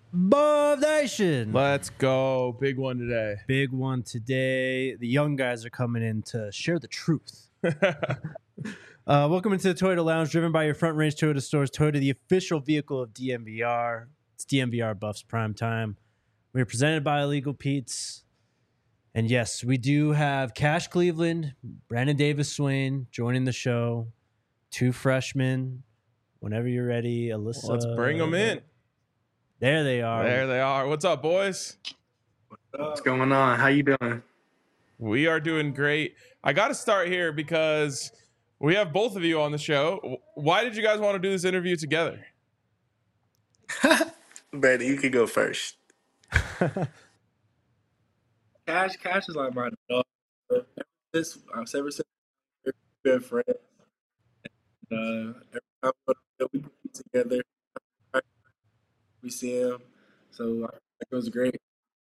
Buff Nation. Let's go. Big one today. Big one today. The young guys are coming in to share the truth. Welcome into the Toyota Lounge, driven by your Front Range Toyota stores. Toyota, the official vehicle of DNVR. It's DNVR Buffs Prime Time. We're presented by Illegal Pete's. And yes, we do have Cash Cleveland, Brandon Davis Swain joining the show. Two freshmen. Whenever you're ready, Alyssa. Let's bring them in. There they are. There they are. What's up, boys? What's going on? How you doing? We are doing great. I got to start here because we have both of you on the show. Why did you guys want to do this interview together? Brady, you could go first. Cash is like my dog. Ever since we've been friends. Every time we compete together, we see him. So I think it was great.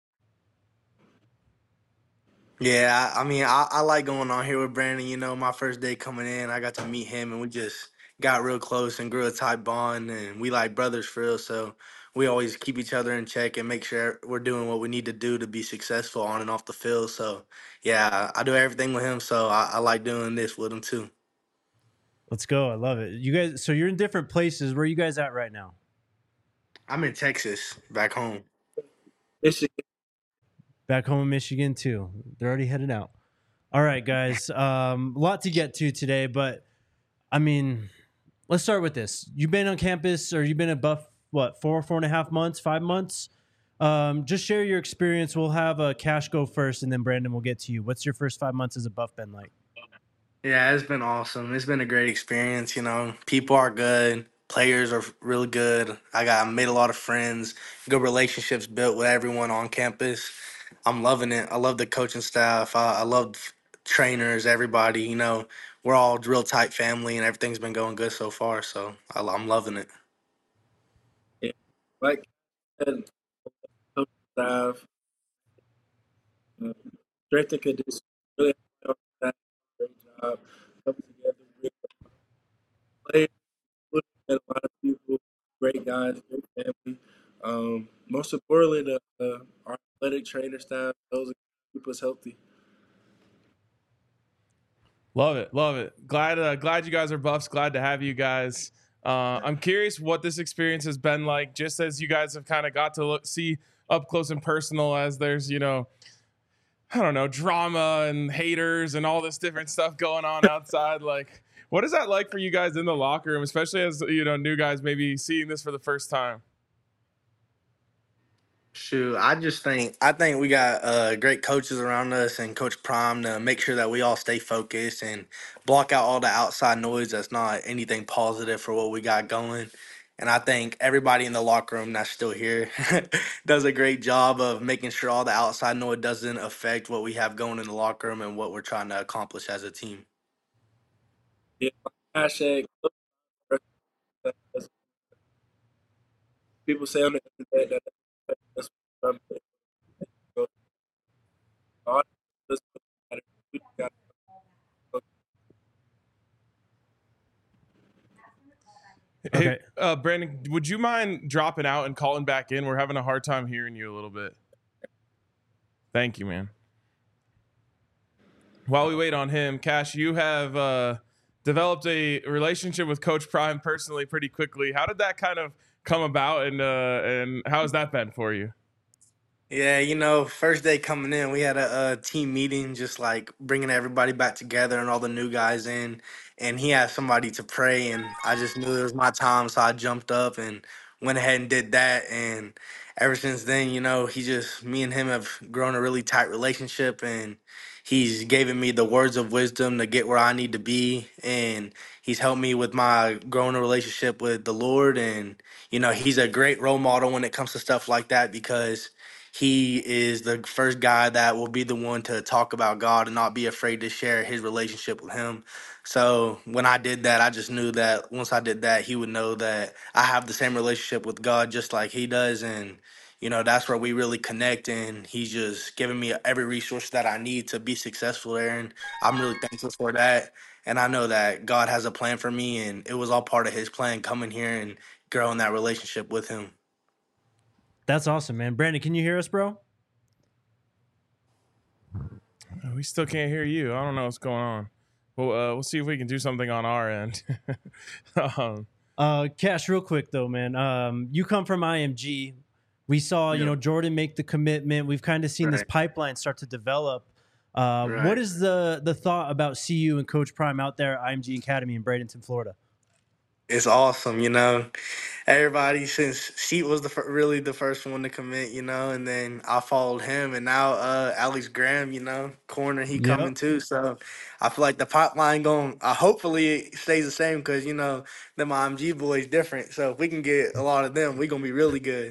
Yeah, I mean, I like going on here with Brandon. You know, my first day coming in, I got to meet him, and we just got real close and grew a tight bond, and we like brothers for real. So we always keep each other in check and make sure we're doing what we need to do to be successful on and off the field. So yeah, I do everything with him. So I like doing this with him too. Let's go. I love it. You guys, so you're in different places. Where are you guys at right now? I'm in Texas, back home. Michigan. Back home in Michigan too. They're already headed out. All right, guys. A lot to get to today, but I mean, let's start with this. You've been on campus, or you've been at Buff, what, 4.5 months, 5 months? Just share your experience. We'll have Cash go first, and then Brandon will get to you. What's your first 5 months as a Buff been like? Yeah, it's been awesome. It's been a great experience. You know, people are good. Players are really good. Made a lot of friends, good relationships built with everyone on campus. I'm loving it. I love the coaching staff. I love trainers, everybody. You know, we're all a real tight family, and everything's been going good so far. So I'm loving it. Yeah. Like and coach staff, strength and condition. Really helped that great job. Coming together with players, and a lot of people, great guys, great family. Most importantly, our athletic trainer staff, those keep us healthy. Love it. Love it. Glad you guys are Buffs. Glad to have you guys. I'm curious what this experience has been like, just as you guys have kind of got to see up close and personal, as there's, I don't know, drama and haters and all this different stuff going on outside. Like, what is that like for you guys in the locker room, especially as, new guys maybe seeing this for the first time? Shoot, I think we got great coaches around us and Coach Prime to make sure that we all stay focused and block out all the outside noise that's not anything positive for what we got going. And I think everybody in the locker room that's still here does a great job of making sure all the outside noise doesn't affect what we have going in the locker room and what we're trying to accomplish as a team. Yeah, hashtag. People say on the internet that's what I'm God doesn't matter. We got Hey, Brandon, would you mind dropping out and calling back in? We're having a hard time hearing you a little bit. Thank you, man. While we wait on him, Cash, you have developed a relationship with Coach Prime personally pretty quickly. How did that kind of come about, and how has that been for you? Yeah, you know, first day coming in, we had a team meeting, just like bringing everybody back together and all the new guys in. And he had somebody to pray, and I just knew it was my time, so I jumped up and went ahead and did that. And ever since then, you know, me and him have grown a really tight relationship, and he's given me the words of wisdom to get where I need to be. And he's helped me with my growing relationship with the Lord. And, you know, he's a great role model when it comes to stuff like that because he is the first guy that will be the one to talk about God and not be afraid to share his relationship with him. So when I did that, I just knew that once I did that, he would know that I have the same relationship with God just like he does. And, you know, that's where we really connect. And he's just giving me every resource that I need to be successful there. And I'm really thankful for that. And I know that God has a plan for me, and it was all part of his plan coming here and growing that relationship with him. That's awesome, man. Brandon, can you hear us, bro? We still can't hear you. I don't know what's going on. We'll see if we can do something on our end. Cash, real quick though, man. You come from IMG. We saw, Jordan make the commitment. We've kind of seen this pipeline start to develop. What is the thought about CU and Coach Prime out there at IMG Academy in Bradenton, Florida? It's awesome, Everybody since Sheet was really the first one to commit, and then I followed him, and now Alex Graham, corner he coming too. So I feel like the pipeline going. Hopefully it stays the same because them IMG boys different. So if we can get a lot of them, we gonna be really good.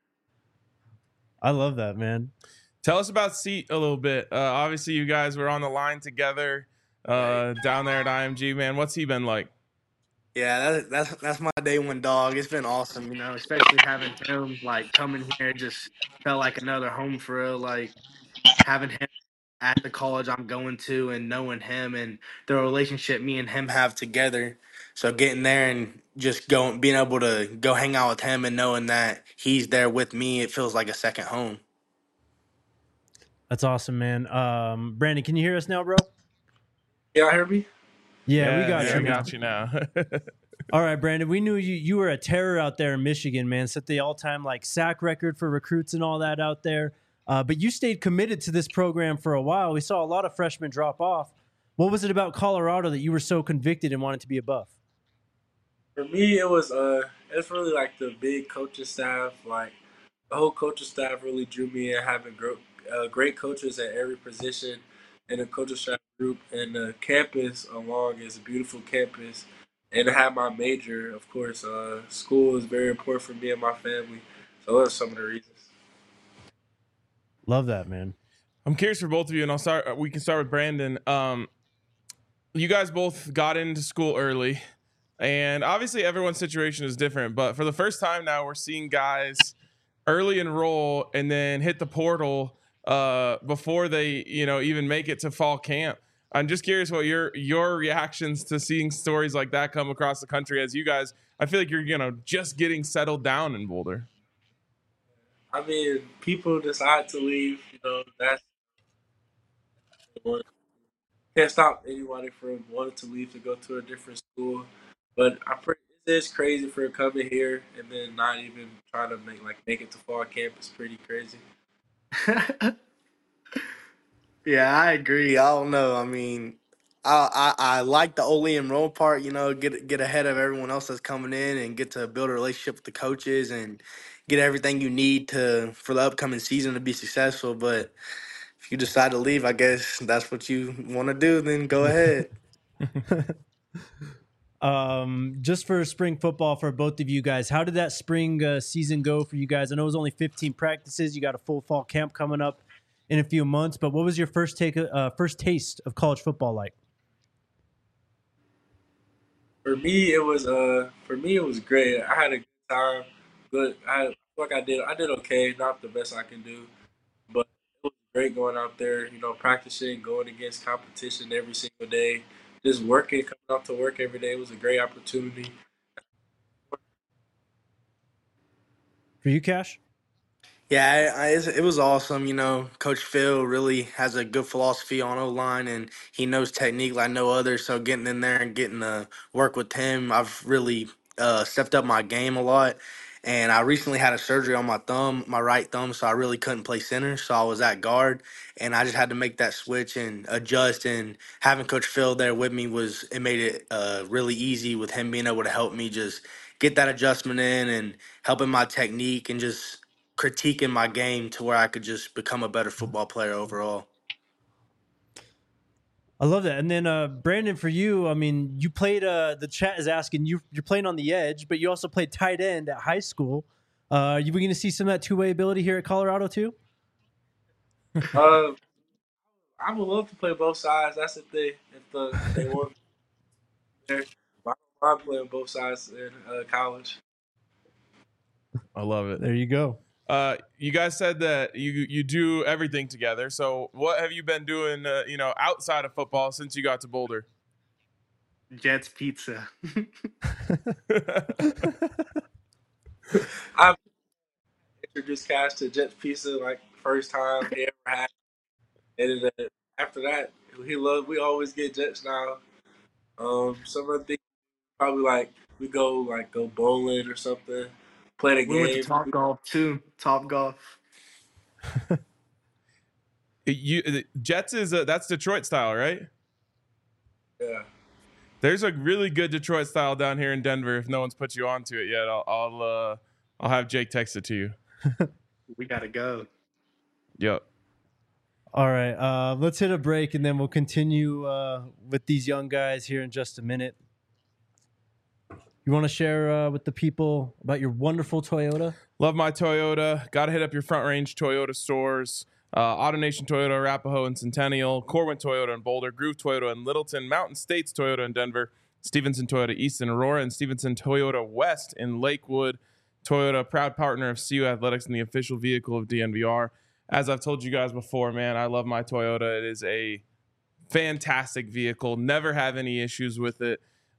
I love that, man. Tell us about Seat a little bit. Obviously, you guys were on the line together down there at IMG. Man, what's he been like? Yeah, that's my day one dog. It's been awesome, especially having him coming here. Just felt like another home for real. Like having him at the college I'm going to and knowing him and the relationship me and him have together. So getting there and just being able to go hang out with him and knowing that he's there with me, it feels like a second home. That's awesome, man. Brandon, can you hear us now, bro? Yeah, hear me? Yeah, we got you. We got you now. All right, Brandon. We knew you were a terror out there in Michigan, man. Set the all-time sack record for recruits and all that out there. But you stayed committed to this program for a while. We saw a lot of freshmen drop off. What was it about Colorado that you were so convicted and wanted to be a Buff? For me, it was it's really the big coaching staff. The whole coaching staff really drew me in, having great coaches at every position in the coaching staff group, and the campus along is a beautiful campus. And to have my major, of course, school is very important for me and my family. So those are some of the reasons. Love that, man. I'm curious for both of you, and we can start with Brandon. You guys both got into school early, and obviously everyone's situation is different. But for the first time now, we're seeing guys early enroll and then hit the portal before they, even make it to fall camp. I'm just curious what your reactions to seeing stories like that come across the country as you guys. I feel like you're just getting settled down in Boulder. I mean, people decide to leave. That's can't stop anybody from wanting to leave to go to a different school. But it is crazy for coming here and then not even trying to make it to fall camp. It's pretty crazy. Yeah, I agree. I don't know. I mean, I like the early enroll part. Get ahead of everyone else that's coming in and get to build a relationship with the coaches and get everything you need for the upcoming season to be successful. But if you decide to leave, I guess that's what you want to do. Then go ahead. Just for spring football for both of you guys, how did that spring season go for you guys? I know it was only 15 practices. You got a full fall camp coming up in a few months, but what was your first taste of college football like? For me, it was great. I had a good time. I feel like I did okay, not the best I can do, but it was great going out there. Practicing, going against competition every single day, just working, coming out to work every day. It was a great opportunity. For you, Cash? Yeah, it was awesome. Coach Phil really has a good philosophy on O-line, and he knows technique like no other. So getting in there and getting to work with him, I've really stepped up my game a lot. And I recently had a surgery on my right thumb, so I really couldn't play center. So I was at guard, and I just had to make that switch and adjust. And having Coach Phil there with me it made it really easy with him being able to help me just get that adjustment in and helping my technique and just critiquing my game to where I could just become a better football player overall. I love that. And then Brandon, for you, I mean, you played. The chat is asking you're playing on the edge, but you also played tight end at high school. Are you going to see some of that two-way ability here at Colorado too? I would love to play both sides. That's the thing. If they want, I don't mind playing both sides in college. I love it. There you go. You guys said that you do everything together. So what have you been doing, outside of football since you got to Boulder? Jets Pizza. I'm introduced Cash to Jets Pizza like first time he ever had. And then, after that, we always get Jets now. Some of the things probably like we go bowling or something, play the We went to game. Top Golf too. Top Golf. The Jets is that's Detroit style, right? Yeah. There's a really good Detroit style down here in Denver. If no one's put you onto it yet, I'll have Jake text it to you. We gotta go. Yep. All right, let's hit a break and then we'll continue with these young guys here in just a minute. You want to share with the people about your wonderful Toyota? Love my Toyota. Got to hit up your Front Range Toyota stores. AutoNation Toyota, Arapahoe and Centennial, Corwin Toyota in Boulder, Groove Toyota in Littleton, Mountain States Toyota in Denver, Stevenson Toyota East in Aurora, and Stevenson Toyota West in Lakewood. Toyota, proud partner of CU Athletics and the official vehicle of DNVR. As I've told you guys before, man, I love my Toyota. It is a fantastic vehicle. Never have any issues with it.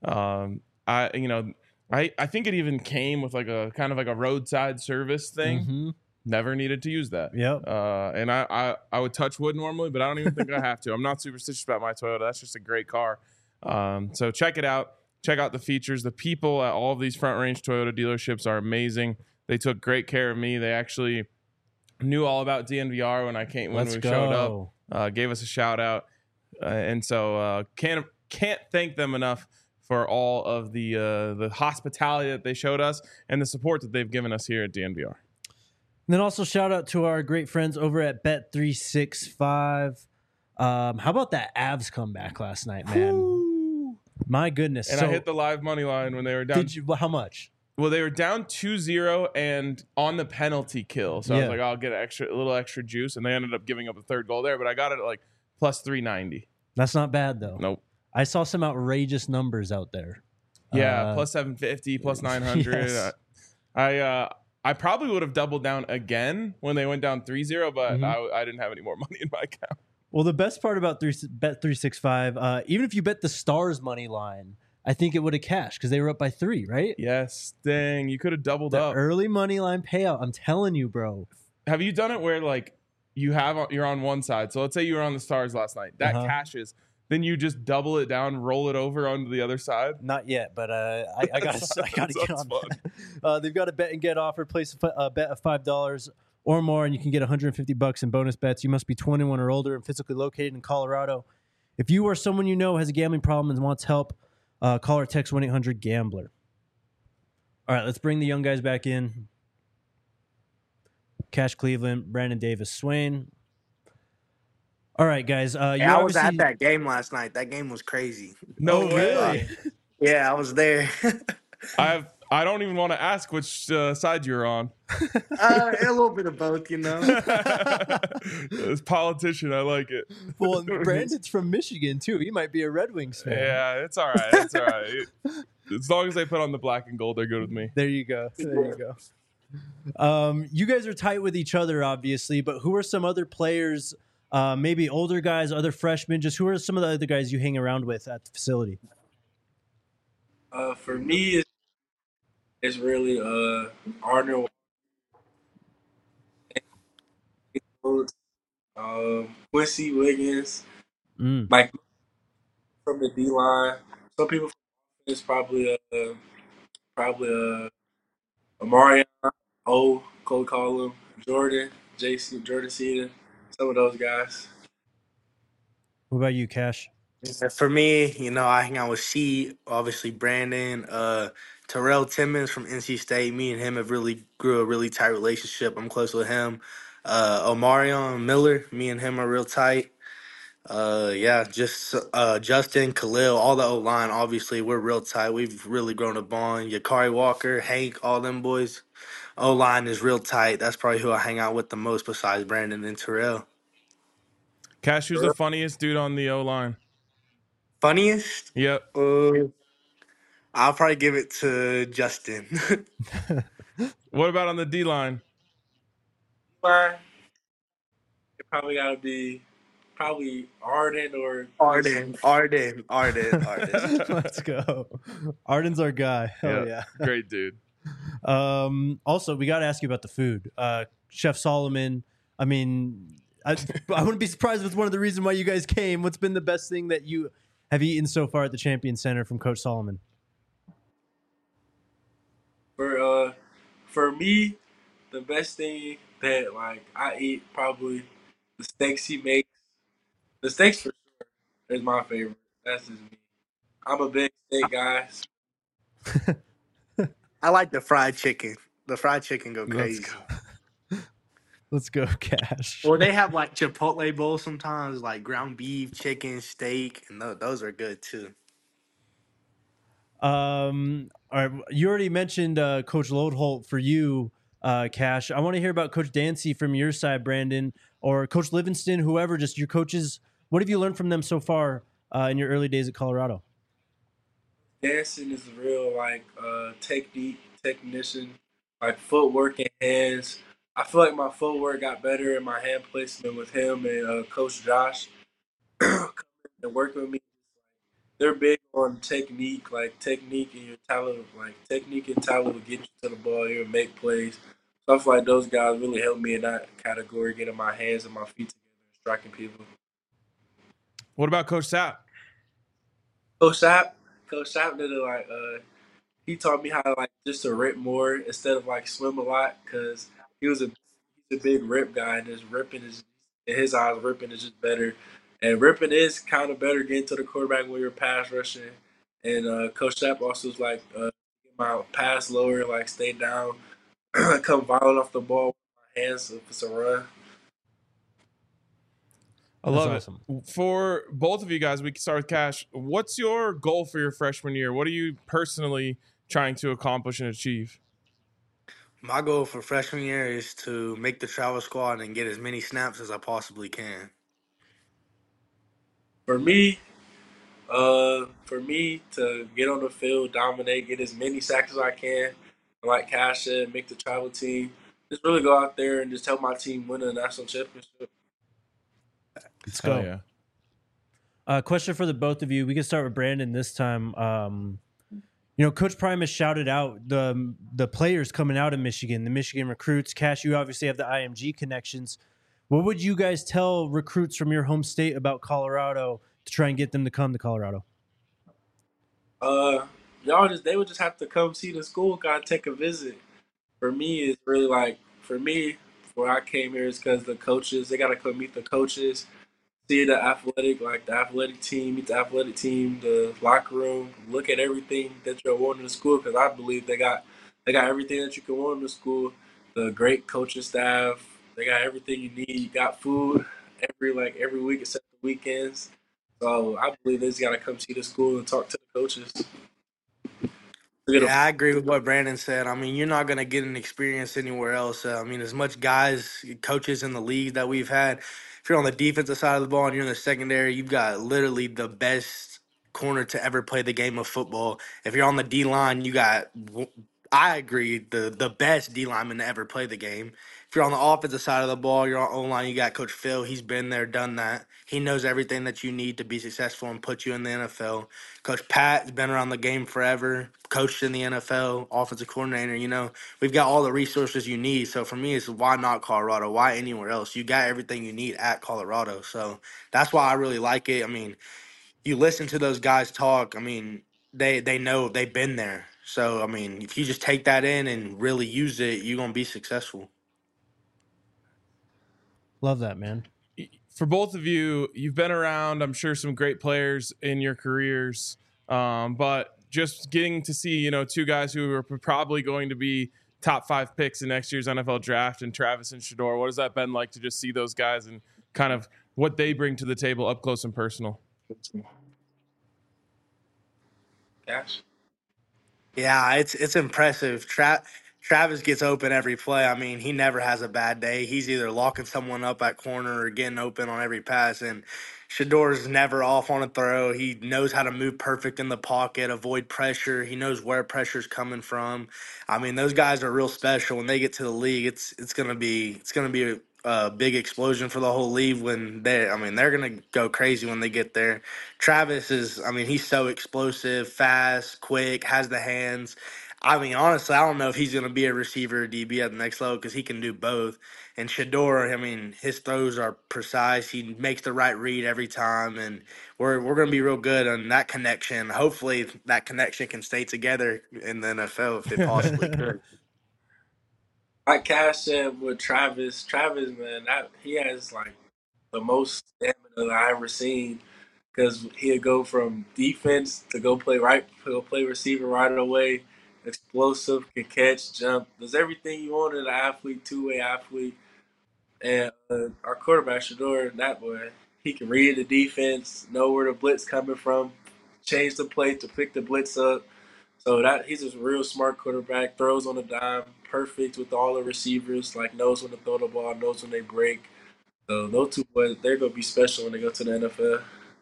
I think it even came with like a kind of like a roadside service thing. Mm-hmm. Never needed to use that. Yep. And I would touch wood normally, but I don't even think I have to. I'm not superstitious about my Toyota. That's just a great car. So check it out. Check out the features. The people at all of these Front Range Toyota dealerships are amazing. They took great care of me. They actually knew all about DNVR when we showed up. Gave us a shout out, and so can't thank them enough for all of the hospitality that they showed us and the support that they've given us here at DNVR. And then also shout out to our great friends over at Bet365. How about that Avs comeback last night, man? Ooh. My goodness. And I hit the live money line when they were down. Did you? How much? Well, they were down 2-0 and on the penalty kill. So I was like, I'll get a little extra juice. And they ended up giving up a third goal there, but I got it at like plus 390. That's not bad, though. Nope. I saw some outrageous numbers out there. Yeah, plus 750, plus 900. Yes. I probably would have doubled down again when they went down 3-0, but I didn't have any more money in my account. Well, the best part about Bet365, even if you bet the Stars money line, I think it would have cashed because they were up by 3, right? Yes, dang, you could have doubled The up. early money line payout. I'm telling you, bro. Have you done it where like you're on one side? So let's say you were on the Stars last night. That cashes. Then you just double it down, roll it over onto the other side. Not yet, but I got to get on that. They've got a bet and get offer. Place a bet of $5 or more, and you can get $150 in bonus bets. You must be 21 or older and physically located in Colorado. If you or someone you know has a gambling problem and wants help, call or text 1-800-GAMBLER. All right, let's bring the young guys back in. Cash Cleveland, Brandon Davis, Swain. All right, guys. I was at that game last night. That game was crazy. No way. Really? Yeah, I was there. I don't even want to ask which side you're on. A little bit of both, you know. This politician, I like it. Well, Brandon's from Michigan too. He might be a Red Wings fan. Yeah, it's all right. It's all right. As long as they put on the black and gold, they're good with me. There you go. There you go. You guys are tight with each other, obviously, but who are some other players? Maybe older guys, other freshmen. Just who are some of the other guys you hang around with at the facility? For me, it's really Arnold, Quincy Wiggins, like from the D line. Some people from offense probably Amarion, Cole Collum, Jordan, Jordan Seaton, some of those guys. What about you, Cash? For me, you know, I hang out with C, obviously Brandon, Terrell Timmons from NC State. Me and him have really grew a really tight relationship. I'm close with him. Omarion Miller, me and him are real tight. Justin, Khalil, all the O-line, obviously, we're real tight. We've really grown a bond. Yakari Walker, Hank, all them boys. O-line is real tight. That's probably who I hang out with the most besides Brandon and Terrell. Cash, who's the funniest dude on the O-line? Funniest? Yep. I'll probably give it to Justin. What about on the D-line? It probably got to be Arden or Arden. Let's go. Arden's our guy. Oh, yeah. Great dude. Also, we got to ask you about the food. Chef Solomon, I mean, I wouldn't be surprised if it's one of the reasons why you guys came. What's been the best thing that you have eaten so far at the Champion Center from Coach Solomon? For me, the best thing that like I eat probably the steaks he makes. The steaks for sure is my favorite. That's just me. I'm a big steak guy. I like the fried chicken. The fried chicken go Let's crazy. go. Let's go, Cash. Or they have like Chipotle bowls sometimes, like ground beef, chicken, steak, and those are good too. All right, you already mentioned Coach Lodeholt for you, Cash. I want to hear about Coach Dancy from your side, Brandon, or Coach Livingston, whoever. Just your coaches. What have you learned from them so far in your early days at Colorado? Dancing is real like technician, like footwork and hands. I feel like my footwork got better and my hand placement with him and Coach Josh coming and working with me. They're big on technique, like technique and your talent, like technique and talent will get you to the ball, you make plays. So I feel like those guys really helped me in that category, getting my hands and my feet together and striking people. What about Coach Sapp? Coach Sapp, Coach Sapp did it like he taught me how to like just to rip more instead of like swim a lot because he's a big rip guy and his ripping is in his eyes ripping is just better. And ripping is kind of better getting to the quarterback when you're pass rushing. And Coach Sapp also was like, get my pass lower, like stay down, come violent off the ball with my hands if it's a run. I love awesome. it. For both of you guys, we can start with Cash. What's your goal for your freshman year? What are you personally trying to accomplish and achieve? My goal for freshman year is to make the travel squad and get as many snaps as I possibly can. For me, for me to get on the field, dominate, get as many sacks as I can, and like Cash said, make the travel team. Just really go out there and just help my team win a national championship. Let's Hell go. yeah. Question for the both of you. We can start with Brandon this time. Coach Prime has shouted out the players coming out of Michigan, the Michigan recruits. Cash, you obviously have the IMG connections. What would you guys tell recruits from your home state about Colorado to try and get them to come to Colorado? They would just have to come see the school, gotta take a visit. For me, it's really like before I came here is because the coaches, they gotta come meet the coaches, see the athletic team, meet the athletic team, the locker room, look at everything that you're wanting in the school. Because I believe they got everything that you can want in the school. The great coaching staff, they got everything you need. You got food every week except the weekends. So I believe they just gotta come see the school and talk to the coaches. Yeah, I agree with what Brandon said. I mean, you're not going to get an experience anywhere else. I mean, as much guys, coaches in the league that we've had, if you're on the defensive side of the ball and you're in the secondary, you've got literally the best corner to ever play the game of football. If you're on the D line, I agree, the best D lineman to ever play the game. If you're on the offensive side of the ball, you're on O line, you got Coach Phil. He's been there, done that. He knows everything that you need to be successful and put you in the NFL. Coach Pat's been around the game forever, coached in the NFL, offensive coordinator. We've got all the resources you need. So for me, it's why not Colorado? Why anywhere else? You got everything you need at Colorado. So that's why I really like it. I mean, you listen to those guys talk. I mean, they know they've been there. So I mean, if you just take that in and really use it, you're gonna be successful. Love that, man. For both of you, you've been around, I'm sure, some great players in your careers, but just getting to see, two guys who are probably going to be top 5 picks in next year's NFL draft, and Travis and Shedeur. What has that been like to just see those guys and kind of what they bring to the table up close and personal? Cash. Yeah, it's impressive. Travis gets open every play. I mean, he never has a bad day. He's either locking someone up at corner or getting open on every pass. And Shador's never off on a throw. He knows how to move perfect in the pocket, avoid pressure. He knows where pressure's coming from. I mean, those guys are real special. When they get to the league, it's gonna be a big explosion for the whole league when they're gonna go crazy when they get there. Travis is, I mean, he's so explosive, fast, quick, has the hands. I mean, honestly, I don't know if he's going to be a receiver or DB at the next level because he can do both. And Shador, I mean, his throws are precise. He makes the right read every time, and we're going to be real good on that connection. Hopefully, that connection can stay together in the NFL if it possibly could. Like Cash said with Travis, man, that he has like the most stamina that I ever seen. Because he'd go from defense to go play receiver right away. Explosive, can catch, jump, does everything you want in an athlete, two-way athlete. And our quarterback, Shador, that boy, he can read the defense, know where the blitz coming from, change the play to pick the blitz up. So that he's a real smart quarterback. Throws on a dime, perfect with all the receivers. Like knows when to throw the ball, knows when they break. So those two boys, they're gonna be special when they go to the NFL.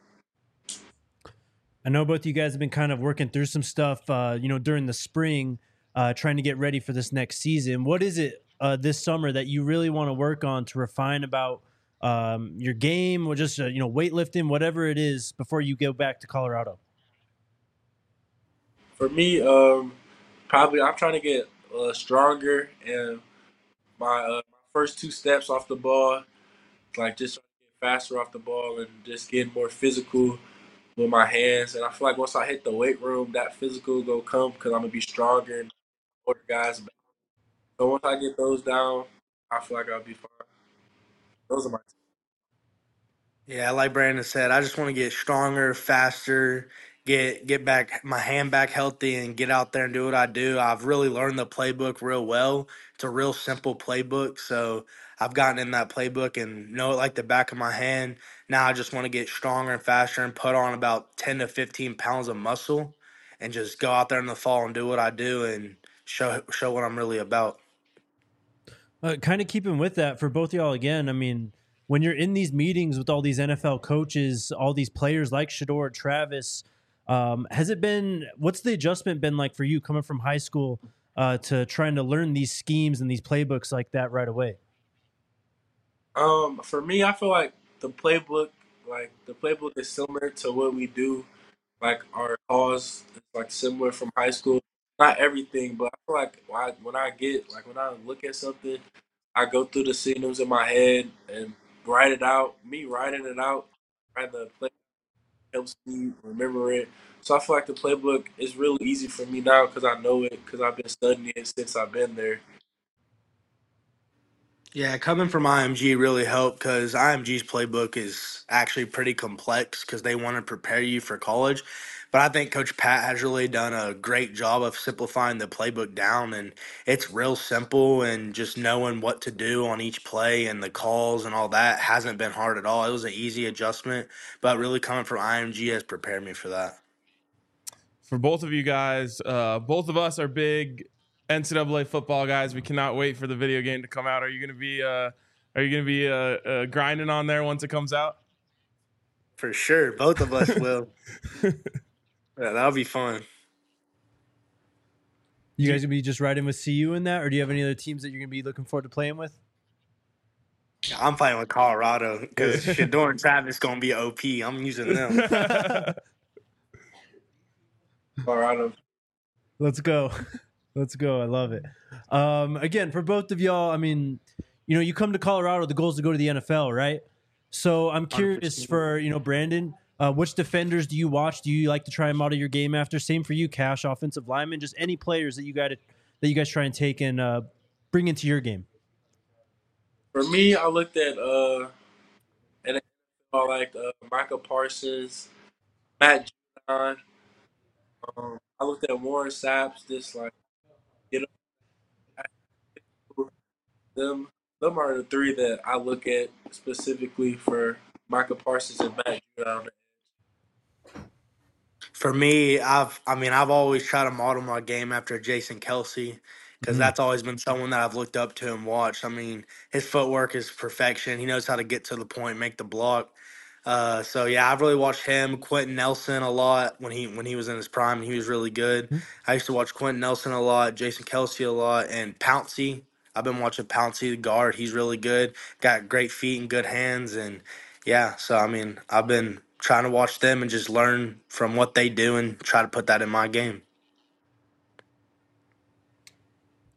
I know both of you guys have been kind of working through some stuff, during the spring, trying to get ready for this next season. What is it this summer that you really want to work on to refine about your game, or just weightlifting, whatever it is, before you go back to Colorado? For me, probably I'm trying to get stronger and my first two steps off the ball, like just trying to get faster off the ball and just getting more physical with my hands. And I feel like once I hit the weight room, that physical will come because I'm gonna be stronger and older guys. So once I get those down, I feel like I'll be fine. Those are my. Yeah, like Brandon said, I just want to get stronger, faster, get back my hand back healthy, and get out there and do what I do. I've really learned the playbook real well. It's a real simple playbook, so I've gotten in that playbook and know it like the back of my hand. Now I just want to get stronger and faster and put on about 10 to 15 pounds of muscle, and just go out there in the fall and do what I do and show what I'm really about. Kind of keeping with that for both y'all again. I mean, when you're in these meetings with all these NFL coaches, all these players like Shador, Travis, has it been? What's the adjustment been like for you coming from high school to trying to learn these schemes and these playbooks like that right away? For me, I feel like the playbook is similar to what we do. Like our calls is like similar from high school. Not everything, but I feel like when I look at something, I go through the signals in my head and write it out. Me writing it out, writing the play helps me remember it. So I feel like the playbook is really easy for me now because I know it because I've been studying it since I've been there. Yeah, coming from IMG really helped because IMG's playbook is actually pretty complex because they want to prepare you for college. But I think Coach Pat has really done a great job of simplifying the playbook down, and it's real simple. And just knowing what to do on each play and the calls and all that hasn't been hard at all. It was an easy adjustment, but really coming from IMG has prepared me for that. For both of you guys, both of us are big NCAA football guys. We cannot wait for the video game to come out. Are you going to be grinding on there once it comes out? For sure, both of us will. Yeah, that'll be fun. You guys gonna be just riding with CU in that, or do you have any other teams that you're gonna be looking forward to playing with? I'm playing with Colorado because Shador and Travis gonna be OP. I'm using them. Colorado. Let's go. Let's go. I love it. Again, for both of y'all, I mean, you come to Colorado, the goal is to go to the NFL, right? So I'm curious 100%. for, Brandon, which defenders do you watch? Do you like to try and model your game after? Same for you, Cash, offensive lineman, just any players that you guys try and take and bring into your game. For me, I looked at and I liked Micah Parsons, Matt Judon. I looked at Warren Saps. Just like you know, them are the three that I look at specifically for Micah Parsons and Matt Judon. For me, I've always tried to model my game after Jason Kelsey because Mhm. that's always been someone that I've looked up to and watched. I mean, his footwork is perfection. He knows how to get to the point, make the block. So yeah, I've really watched him, Quentin Nelson a lot when he was in his prime. He was really good. I used to watch Quentin Nelson a lot, Jason Kelsey a lot, and Pouncey. I've been watching Pouncey, the guard. He's really good. Got great feet and good hands, and yeah. So I mean, I've been trying to watch them and just learn from what they do and try to put that in my game.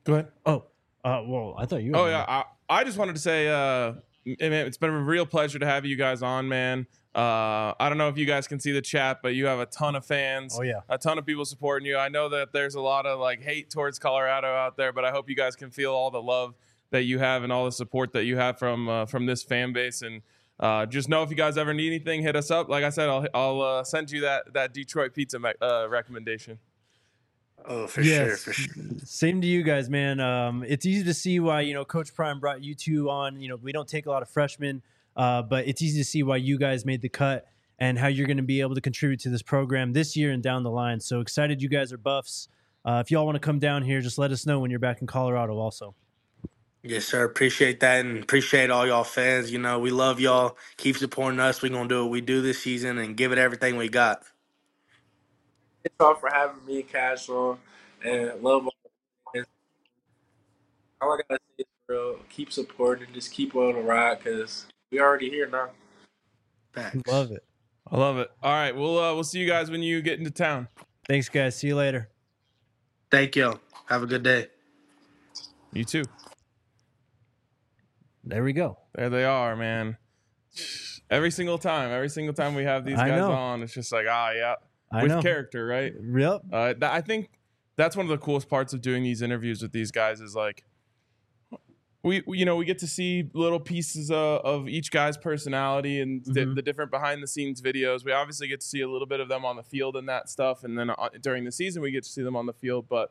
Go ahead. Well, I thought you. Oh yeah, I just wanted to say, it's been a real pleasure to have you guys on, man. I don't know if you guys can see the chat, but you have a ton of fans. Oh yeah, a ton of people supporting you. I know that there's a lot of like hate towards Colorado out there, but I hope you guys can feel all the love that you have and all the support that you have from this fan base. And just know if you guys ever need anything, hit us up. Like I said, I'll send you that Detroit pizza recommendation. Oh, for sure. Same to you guys, man. It's easy to see why, Coach Prime brought you two on. We don't take a lot of freshmen, but it's easy to see why you guys made the cut and how you're going to be able to contribute to this program this year and down the line. So excited you guys are Buffs. If y'all want to come down here, just let us know when you're back in Colorado also. Yes, sir. Appreciate that and appreciate all y'all fans. We love y'all. Keep supporting us. We're going to do what we do this season and give it everything we got. Thanks all for having me, Cash, on, and love all the fans. All I gotta say is, bro, keep supporting, just keep on the ride, because we already here now. Facts. Love it. I love it. All right, we'll see you guys when you get into town. Thanks, guys. See you later. Thank you. Have a good day. You too. There we go. There they are, man. Every single time we have these guys on, it's just like, yeah, with character, right? Yep. I think that's one of the coolest parts of doing these interviews with these guys is like, we get to see little pieces of each guy's personality and the different behind the scenes videos. We obviously get to see a little bit of them on the field and that stuff, and then during the season we get to see them on the field. But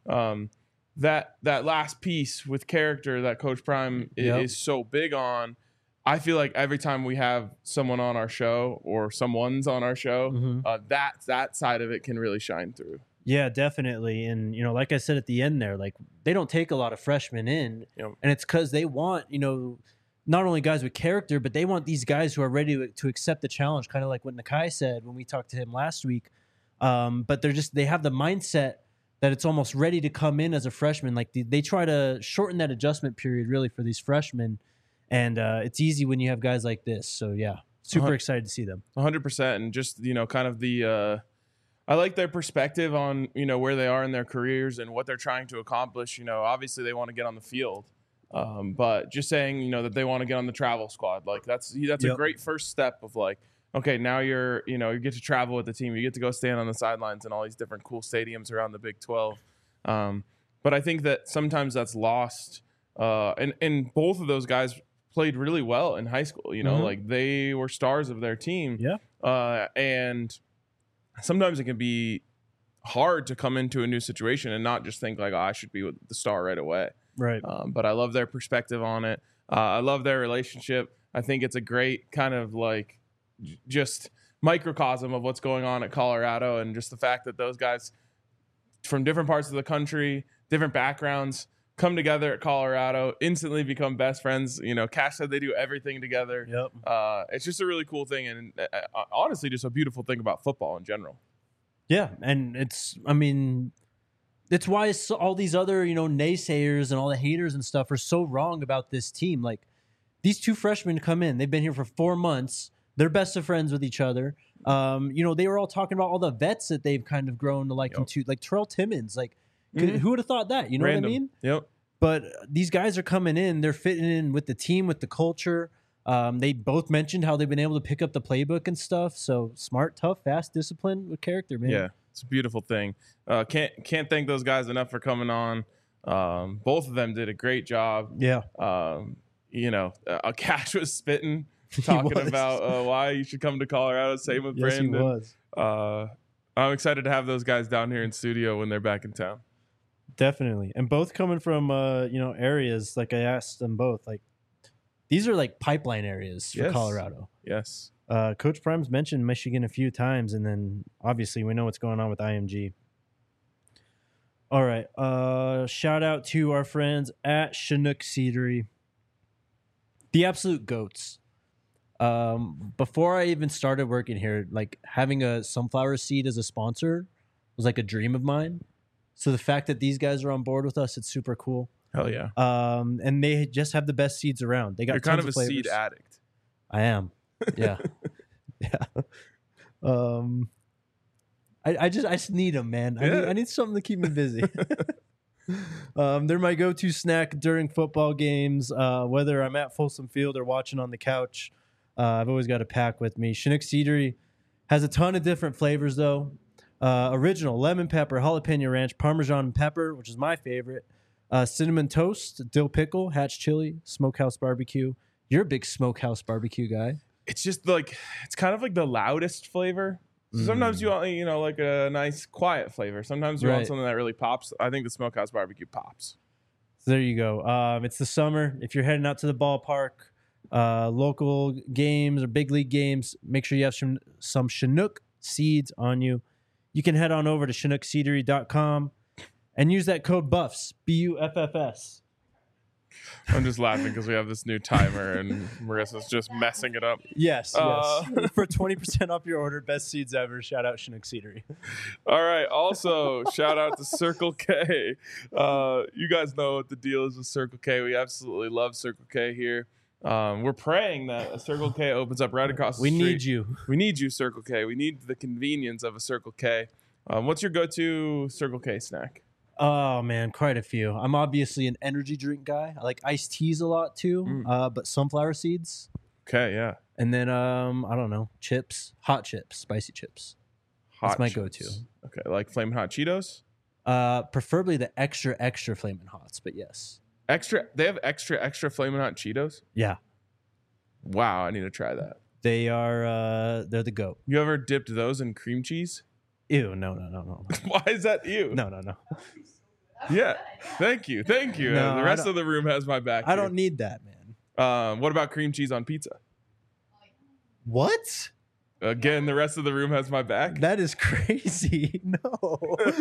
that last piece with character that Coach Prime is so big on, I feel like every time we have someone on our show or someone's on our show, that side of it can really shine through. Yeah, definitely. And, like I said at the end there, like they don't take a lot of freshmen in, and it's because they want, not only guys with character, but they want these guys who are ready to accept the challenge, kind of like what Nakai said when we talked to him last week. But they have the mindset that it's almost ready to come in as a freshman. Like they try to shorten that adjustment period really for these freshmen. And it's easy when you have guys like this. So, yeah, super excited to see them. 100%. And just, kind of the I like their perspective on, where they are in their careers and what they're trying to accomplish. Obviously they want to get on the field. But just saying, that they want to get on the travel squad. Like that's a great first step of like, okay, now you get to travel with the team. You get to go stand on the sidelines in all these different cool stadiums around the Big 12. But I think that sometimes that's lost. And both of those guys played really well in high school. Like they were stars of their team. Yeah. And sometimes it can be hard to come into a new situation and not just think like, I should be with the star right away. Right. But I love their perspective on it. I love their relationship. I think it's a great kind of like just microcosm of what's going on at Colorado, and just the fact that those guys from different parts of the country, different backgrounds, come together at Colorado, instantly become best friends. Cash said they do everything together. Yep. It's just a really cool thing, and honestly, just a beautiful thing about football in general. Yeah, and it's why all these other, naysayers and all the haters and stuff are so wrong about this team. Like, these two freshmen come in, they've been here for 4 months, they're best of friends with each other. They were all talking about all the vets that they've kind of grown to like into, like Terrell Timmons. Like, who would have thought that? You know Random. What I mean? Yep. But these guys are coming in, they're fitting in with the team, with the culture. They both mentioned how they've been able to pick up the playbook and stuff. So smart, tough, fast, disciplined with character, man. Yeah, it's a beautiful thing. Can't thank those guys enough for coming on. Both of them did a great job. Yeah. Cash was spitting, talking about why you should come to Colorado. Same with Brandon. Yes, he was. I'm excited to have those guys down here in studio when they're back in town. Definitely. And both coming from, areas, like I asked them both, like, these are like pipeline areas for Colorado. Yes. Coach Prime's mentioned Michigan a few times, and then obviously we know what's going on with IMG. All right. Shout out to our friends at Chinook Seedery. The absolute goats. Before I even started working here, like having a sunflower seed as a sponsor was like a dream of mine. So the fact that these guys are on board with us, it's super cool. Hell yeah. And they just have the best seeds around. They got You're kind of a seed addict. I am. Yeah. Yeah. I just need them, man. I need something to keep me busy. They're my go-to snack during football games, whether I'm at Folsom Field or watching on the couch. I've always got a pack with me. Chinook Seedery has a ton of different flavors, though. Original, lemon pepper, jalapeno ranch, Parmesan pepper, which is my favorite, cinnamon toast, dill pickle, hatch chili, smokehouse barbecue. You're a big smokehouse barbecue guy. It's just like, it's kind of like the loudest flavor. So sometimes you want, like a nice quiet flavor. Sometimes you want something that really pops. I think the smokehouse barbecue pops. So there you go. It's the summer. If you're heading out to the ballpark, local games or big league games, make sure you have some Chinook seeds on you. You can head on over to ChinookSeedery.com and use that code BUFFS, BUFFS. I'm just laughing because we have this new timer and Marissa's just messing it up. Yes. For 20% off your order, best seeds ever. Shout out Chinook Seedery. All right. Also, shout out to Circle K. You guys know what the deal is with Circle K. We absolutely love Circle K here. We're praying that a Circle K opens up right across the street. We need you. We need you, Circle K. We need the convenience of a Circle K. What's your go-to Circle K snack? Oh, man, quite a few. I'm obviously an energy drink guy. I like iced teas a lot, too, but sunflower seeds. Okay, yeah. And then, I don't know, chips, hot chips, spicy chips. That's my go-to. Okay, like Flamin' Hot Cheetos? Preferably the extra Flamin' Hots, but yes. They have extra Flamin' Hot Cheetos? Yeah. Wow, I need to try that. They're the GOAT. You ever dipped those in cream cheese? Ew, no. Why is that ew? No. Yeah, thank you. No, the rest of the room has my back. I don't need that, man. What about cream cheese on pizza? What? Again, the rest of the room has my back. That is crazy. No.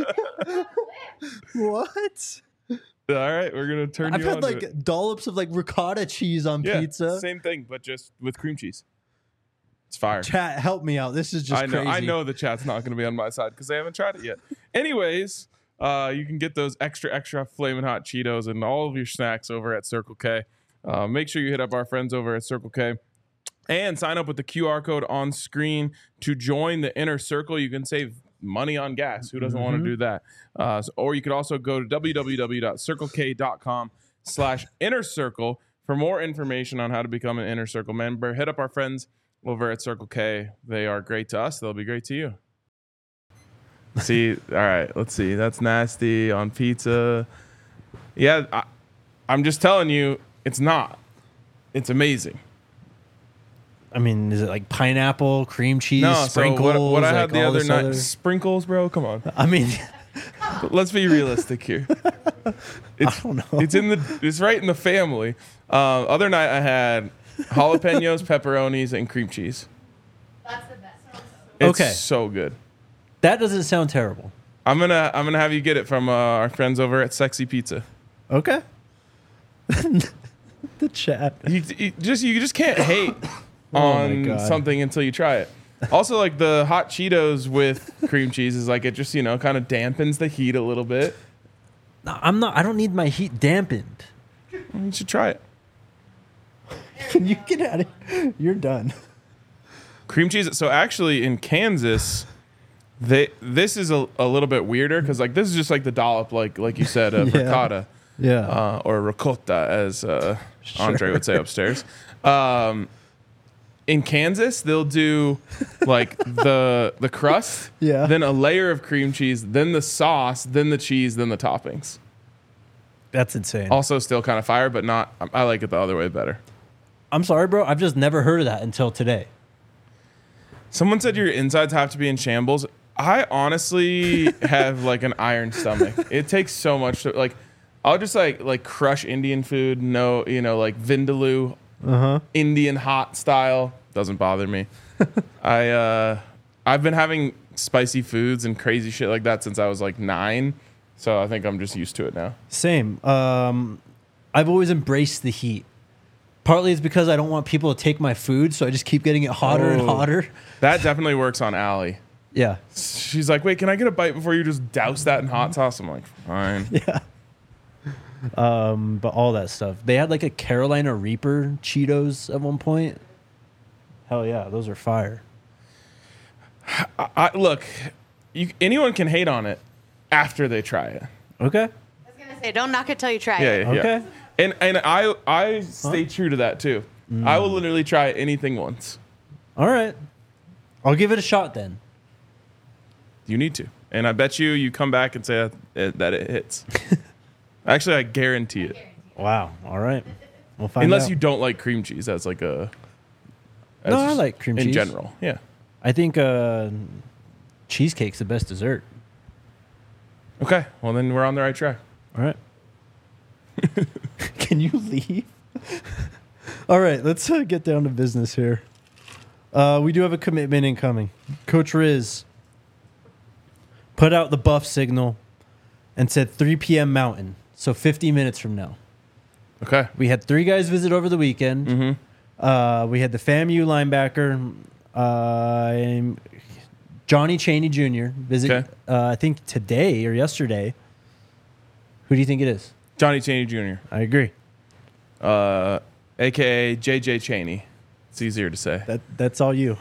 What? All right, we're gonna turn. I've had like dollops of like ricotta cheese on pizza. Same thing, but just with cream cheese. It's fire. Chat, help me out. This is just crazy. I know the chat's not gonna be on my side because they haven't tried it yet. Anyways, you can get those extra Flamin' Hot Cheetos and all of your snacks over at Circle K. Make sure you hit up our friends over at Circle K and sign up with the QR code on screen to join the inner circle. You can save money on gas. Who doesn't want to do that? Or you could also go to www.circlek.com/inner circle for more information on how to become an inner circle member. Hit up our friends over at Circle K. They are great to us. They'll be great to you. See, all right, let's see. That's nasty on pizza. Yeah, I'm just telling you, it's not. It's amazing. I mean, is it like pineapple, cream cheese, sprinkles? So what I had like the other night, sprinkles, bro. Come on. I mean, let's be realistic here. I don't know. It's right in the family. Other night I had jalapenos, pepperonis, and cream cheese. That's the best. It's so good. That doesn't sound terrible. I'm gonna have you get it from our friends over at Sexy Pizza. Okay. The chat. You just can't hate on something until you try it. Also, like the hot Cheetos with cream cheese is like it just kind of dampens the heat a little bit. No, I don't need my heat dampened. You should try it. Can you get out of here? You're done. Cream cheese. So actually, in Kansas, this is a little bit weirder because like this is just like the dollop, like you said, of ricotta, or ricotta, as Andre would say upstairs. In Kansas, they'll do like the crust, then a layer of cream cheese, then the sauce, then the cheese, then the toppings. That's insane. Also, still kind of fire, but not. I like it the other way better. I'm sorry, bro. I've just never heard of that until today. Someone said your insides have to be in shambles. I honestly have like an iron stomach. It takes so much to like. I'll just like crush Indian food. No, like vindaloo, Indian hot style doesn't bother me. I've been having spicy foods and crazy shit like that since I was like 9, so I think I'm just used to it now. Same. I've always embraced the heat. Partly it's because I don't want people to take my food, so I just keep getting it hotter and hotter. That definitely works on Allie. Yeah. She's like, wait, can I get a bite before you just douse that in hot sauce? I'm like, fine. Yeah. But all that stuff. They had like a Carolina Reaper Cheetos at one point. Hell yeah, those are fire. Look, anyone can hate on it after they try it. Okay. I was gonna say Hey, don't knock it till you try Yeah, it. yeah. Okay. And I stay true to that too. I will literally try anything once. All right. I'll give it a shot then. You need to. And I bet you come back and say that it hits. Actually, I guarantee it. Wow. All right. We'll find Unless out. you don't like cream cheese as like a... No, I just like cream in cheese. general. Yeah. I think cheesecake's the best dessert. Okay. Well, then we're on the right track. All right. Can you leave? All right, let's get down to business here. We do have a commitment incoming. Coach Riz put out the buff signal and said 3 p.m. Mountain, so 50 minutes from now. Okay. We had 3 guys visit over the weekend. Mm-hmm. We had the FAMU linebacker, Johnny Chaney Jr. visit, Okay. I think today or yesterday. Who do you think it is? Johnny Chaney Jr. I agree. A.K.A. J.J. Chaney. It's easier to say. That's all you.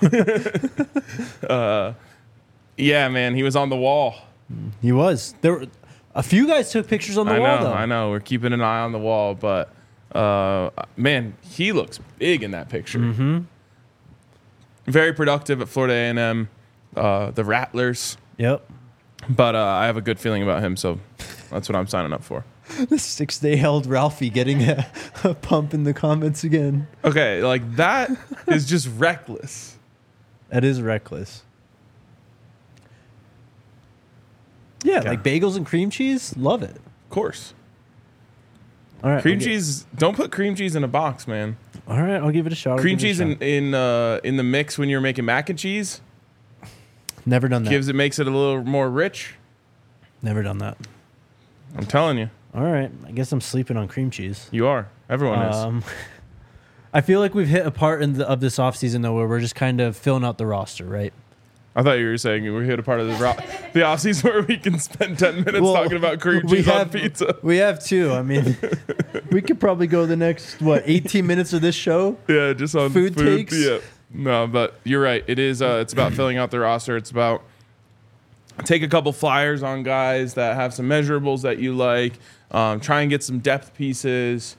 Yeah, man. He was on the wall. He was. There were a few guys took pictures on the wall though. I know. We're keeping an eye on the wall, but man, he looks big in that picture. Mm-hmm. Very productive at Florida A&M, the Rattlers. Yep. But I have a good feeling about him, so that's what I'm signing up for. The 6-day held Ralphie getting a pump in the comments again. Okay, like that is just reckless. That is reckless. Yeah, like bagels and cream cheese, love it. Of course. All right, Cream cheese, don't put cream cheese in a box, man. All right, I'll give it a shot. Cream cheese in the mix when you're making mac and cheese Never done that. makes it a little more rich. Never done that. I'm telling you. All right, I guess I'm sleeping on cream cheese. You are. Everyone is. I feel like we've hit a part of this offseason, though, where we're just kind of filling out the roster, right? I thought you were saying we hit a part of the offseason where we can spend 10 minutes talking about cream cheese on pizza. We have two. I mean, we could probably go the next, 18 minutes of this show? Yeah, just on Food takes? Yeah. No, but you're right. It is. It's about filling out the roster. It's about take a couple flyers on guys that have some measurables that you like. Try and get some depth pieces.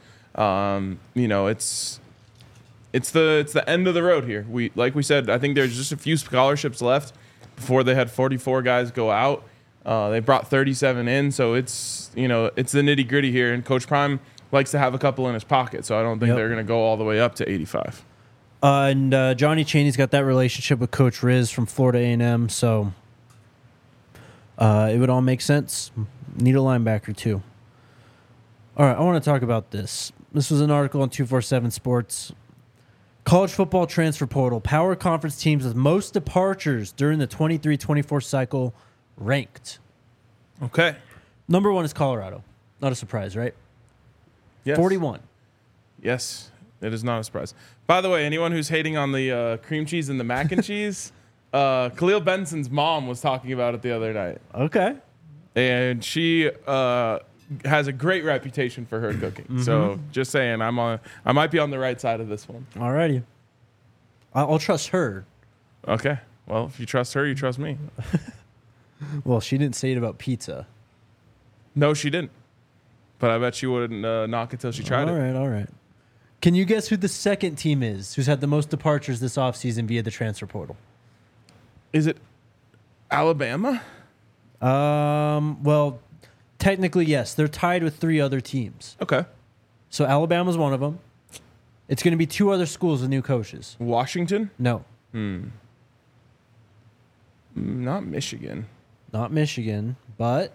It's the end of the road here. Like we said, I think there's just a few scholarships left before they had 44 guys go out. They brought 37 in, so it's the nitty gritty here. And Coach Prime likes to have a couple in his pocket, so I don't think they're going to go all the way up to 85. And Johnny Chaney's got that relationship with Coach Riz from Florida A&M, so it would all make sense. Need a linebacker too. All right, I want to talk about this. This was an article on 247 Sports. College football transfer portal. Power conference teams with most departures during the 23-24 cycle ranked. Okay. Number 1 is Colorado. Not a surprise, right? Yes. 41. Yes, it is not a surprise. By the way, anyone who's hating on the cream cheese and the mac and cheese, Khalil Benson's mom was talking about it the other night. Okay. And she has a great reputation for her cooking. Mm-hmm. So just saying, I might be on the right side of this one. All righty. I'll trust her. Okay. Well, if you trust her, you trust me. Well, she didn't say it about pizza. No, she didn't. But I bet she wouldn't knock it till she tried it. All right. Can you guess who the second team is who's had the most departures this offseason via the transfer portal? Is it Alabama? Well, technically, yes. They're tied with 3 other teams. Okay. So Alabama's one of them. It's going to be 2 other schools with new coaches. Washington? No, Not Michigan. not Michigan, but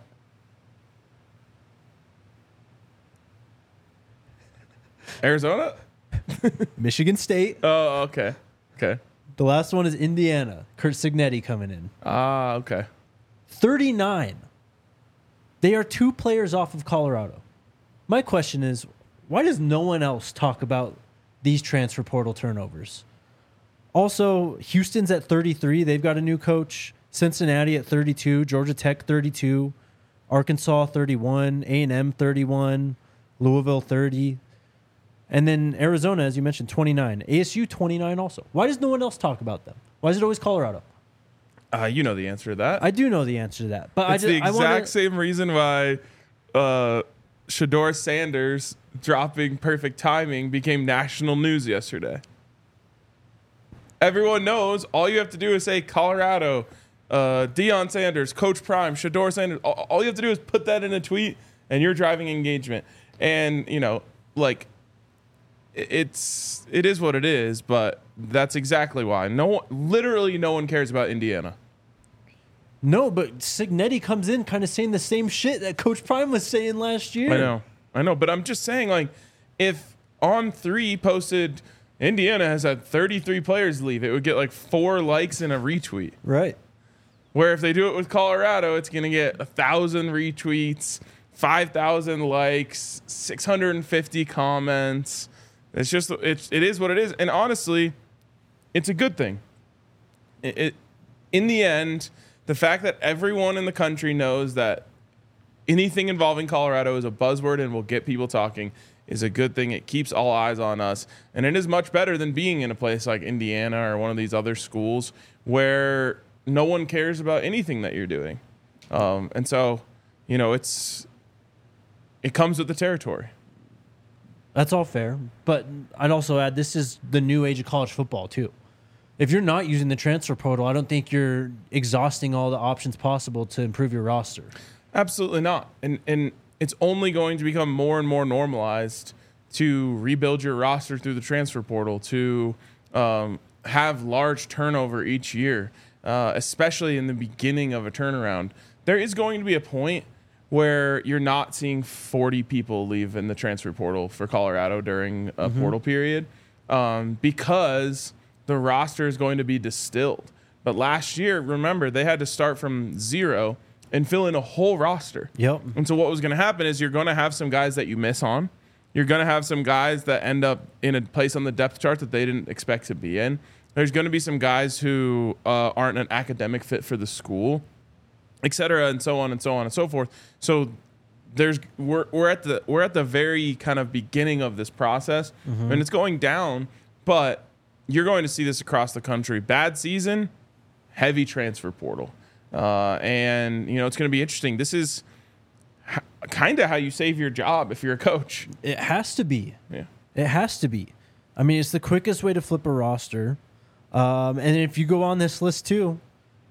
Arizona? Michigan State. Oh, okay. Okay. The last one is Indiana. Kurt Signetti coming in. Ah, okay. 39. They are 2 players off of Colorado. My question is, why does no one else talk about these transfer portal turnovers? Also, Houston's at 33. They've got a new coach. Cincinnati at 32. Georgia Tech 32. Arkansas 31. A&M 31. Louisville 30. And then Arizona, as you mentioned, 29. ASU 29 also. Why does no one else talk about them? Why is it always Colorado? You know the answer to that. I do know the answer to that. But It's the exact same reason why Shedeur Sanders dropping perfect timing became national news yesterday. Everyone knows all you have to do is say Colorado, Deion Sanders, Coach Prime, Shedeur Sanders. All you have to do is put that in a tweet and you're driving engagement. And, you know, like it is what it is, but that's exactly why. Literally no one cares about Indiana. No, but Cignetti comes in kind of saying the same shit that Coach Prime was saying last year. I know, but I'm just saying, like, if On3 posted Indiana has had 33 players leave, it would get like 4 likes and a retweet. Right. Where if they do it with Colorado, it's going to get 1,000 retweets, 5,000 likes, 650 comments. It's just it is what it is, and honestly, it's a good thing. In the end, the fact that everyone in the country knows that anything involving Colorado is a buzzword and will get people talking is a good thing. It keeps all eyes on us, and it is much better than being in a place like Indiana or one of these other schools where no one cares about anything that you're doing. And so, you know, it comes with the territory. That's all fair, but I'd also add this is the new age of college football too. If you're not using the transfer portal, I don't think you're exhausting all the options possible to improve your roster. Absolutely not. And it's only going to become more and more normalized to rebuild your roster through the transfer portal, to have large turnover each year, especially in the beginning of a turnaround. There is going to be a point where you're not seeing 40 people leave in the transfer portal for Colorado during a portal period because the roster is going to be distilled. But last year, remember, they had to start from zero and fill in a whole roster. Yep. And so what was going to happen is you're going to have some guys that you miss on. You're going to have some guys that end up in a place on the depth chart that they didn't expect to be in. There's going to be some guys who aren't an academic fit for the school, et cetera, and so on and so on and so forth. So we're at the very kind of beginning of this process, and it's going down, but you're going to see this across the country. Bad season, heavy transfer portal. And, you know, it's going to be interesting. This is kind of how you save your job if you're a coach. It has to be. Yeah. It has to be. I mean, it's the quickest way to flip a roster. And if you go on this list too,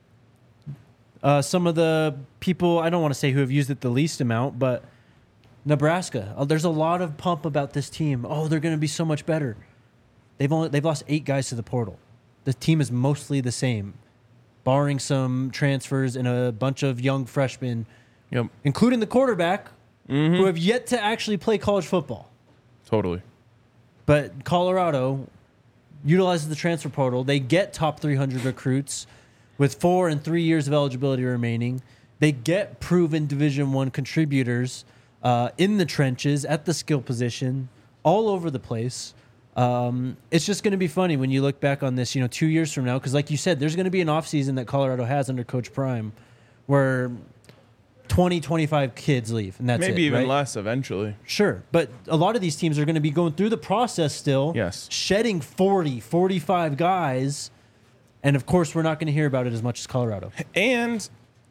some of the people, I don't want to say who have used it the least amount, but Nebraska. There's a lot of pump about this team. Oh, they're going to be so much better. They've lost 8 guys to the portal. The team is mostly the same, barring some transfers and a bunch of young freshmen, including the quarterback, who have yet to actually play college football. Totally. But Colorado utilizes the transfer portal. They get top 300 recruits with 4 and 3 years of eligibility remaining. They get proven Division I contributors in the trenches, at the skill position, all over the place. It's just going to be funny when you look back on this, 2 years from now, because like you said, there's going to be an offseason that Colorado has under Coach Prime where 20, 25 kids leave, and that's maybe it, even right? less eventually. Sure, but a lot of these teams are going to be going through the process still, Yes. shedding 40, 45 guys, and of course we're not going to hear about it as much as Colorado. And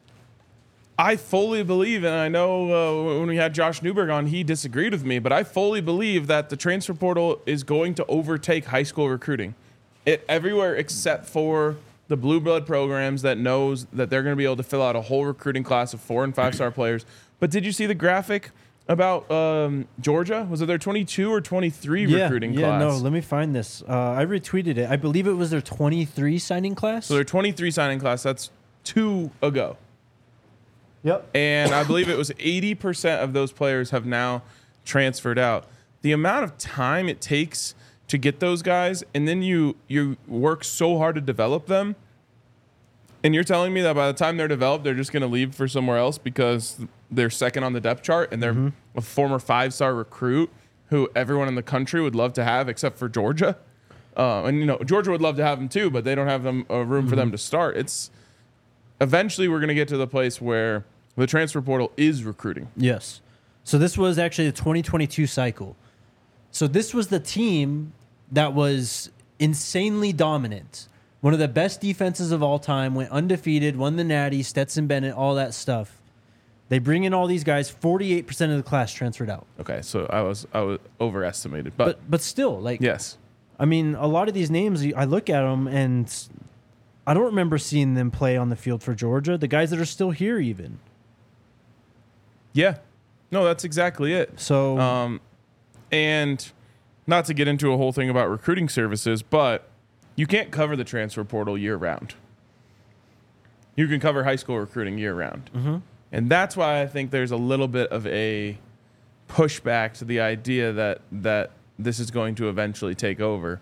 I fully believe, and I know when we had Josh Newberg on, he disagreed with me, but I fully believe that the transfer portal is going to overtake high school recruiting. Everywhere except for the blue blood programs that knows that they're going to be able to fill out a whole recruiting class of 4 and 5-star players. But did you see the graphic about Georgia? Was it their 22 or 23 recruiting class? Yeah, no, let me find this. I retweeted it. I believe it was their 23 signing class. So their 23 signing class, that's 2 ago. Yep. And I believe it was 80% of those players have now transferred out. The amount of time it takes to get those guys, and then you work so hard to develop them, and you're telling me that by the time they're developed, they're just going to leave for somewhere else because they're second on the depth chart and they're a former 5-star recruit who everyone in the country would love to have except for Georgia. And, Georgia would love to have them too, but they don't have them room for them to start. Eventually we're going to get to the place where the transfer portal is recruiting. Yes. So this was actually the 2022 cycle. So this was the team that was insanely dominant. One of the best defenses of all time, went undefeated, won the Natty, Stetson Bennett, all that stuff. They bring in all these guys. 48% of the class transferred out. Okay, so I was overestimated, but But still, like, yes, I mean, a lot of these names, I look at them and I don't remember seeing them play on the field for Georgia. The guys that are still here, even. yeah, no, that's exactly it. So, And not to get into a whole thing about recruiting services, but you can't cover the transfer portal year round. You can cover high school recruiting year round. Mm-hmm. And that's why I think there's a little bit of a pushback to the idea that this is going to eventually take over.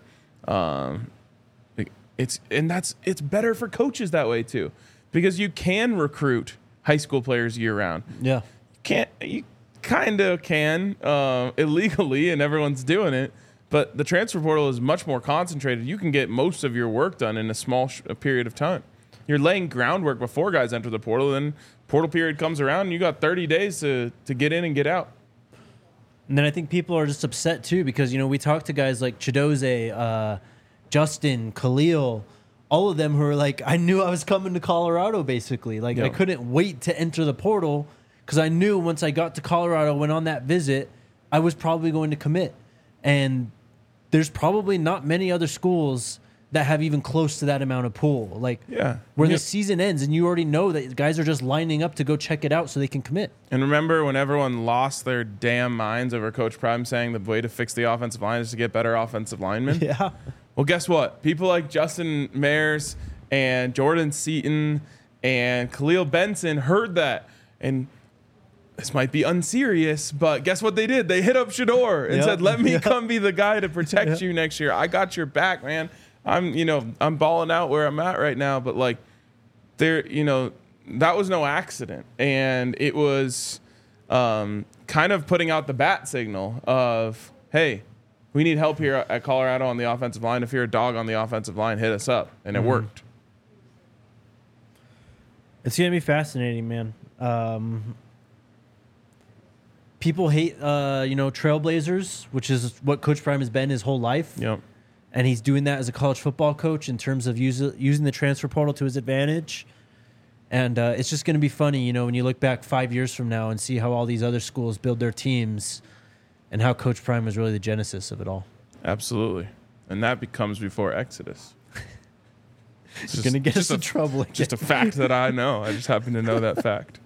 It's better for coaches that way too, because you can recruit high school players year round. yeah. You kind of can illegally, and everyone's doing it. But the transfer portal is much more concentrated. You can get most of your work done in a small period of time. You're laying groundwork before guys enter the portal. Then portal period comes around, and you got 30 days to get in and get out. And then I think people are just upset too because, you know, we talked to guys like Chidoze, Justin, Khalil, all of them who are like, I knew I was coming to Colorado basically. Like, Yeah. I couldn't wait to enter the portal because I knew once I got to Colorado, went on that visit, I was probably going to commit. And there's probably not many other schools that have even close to that amount of pool. Like, Yeah. where Yeah. the season ends and you already know that guys are just lining up to go check it out so they can commit. And remember when everyone lost their damn minds over Coach Prime saying the way to fix the offensive line is to get better offensive linemen? Yeah. Well, guess what? People like Justin Mayers and Jordan Seaton and Khalil Benson heard that. And this might be unserious, but guess what they did? They hit up Shador and Yep. said, let me Yep. come be the guy to protect you next year. I got your back, man. I'm balling out where I'm at right now, but like that was no accident. And it was kind of putting out the bat signal of, hey, we need help here at Colorado on the offensive line. If you're a dog on the offensive line, hit us up. And it worked. It's going to be fascinating, man. People hate, Trailblazers, which is what Coach Prime has been his whole life. Yep. And he's doing that as a college football coach in terms of using the transfer portal to his advantage. And it's just going to be funny, when you look back 5 years from now and see how all these other schools build their teams and how Coach Prime was really the genesis of it all. Absolutely. And that becomes before Exodus. It's going to get us in trouble again. Just a fact that I know. I just happen to know that fact.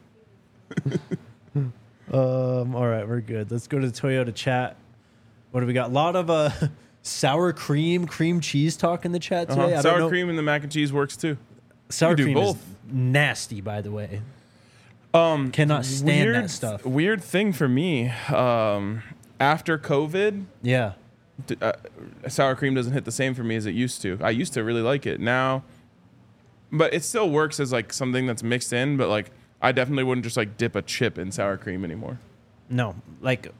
All right, we're good. Let's go to the Toyota chat. What do we got? A lot of sour cream cheese talk in the chat today. I don't Sour know. cream and the mac and cheese works too. Sour You do cream both. is nasty, by the way. Cannot stand that stuff. Weird thing for me. After COVID, Yeah. sour cream doesn't hit the same for me as it used to. I used to really like it. Now, but it still works as like something that's mixed in. But like, I definitely wouldn't just like dip a chip in sour cream anymore. No, like,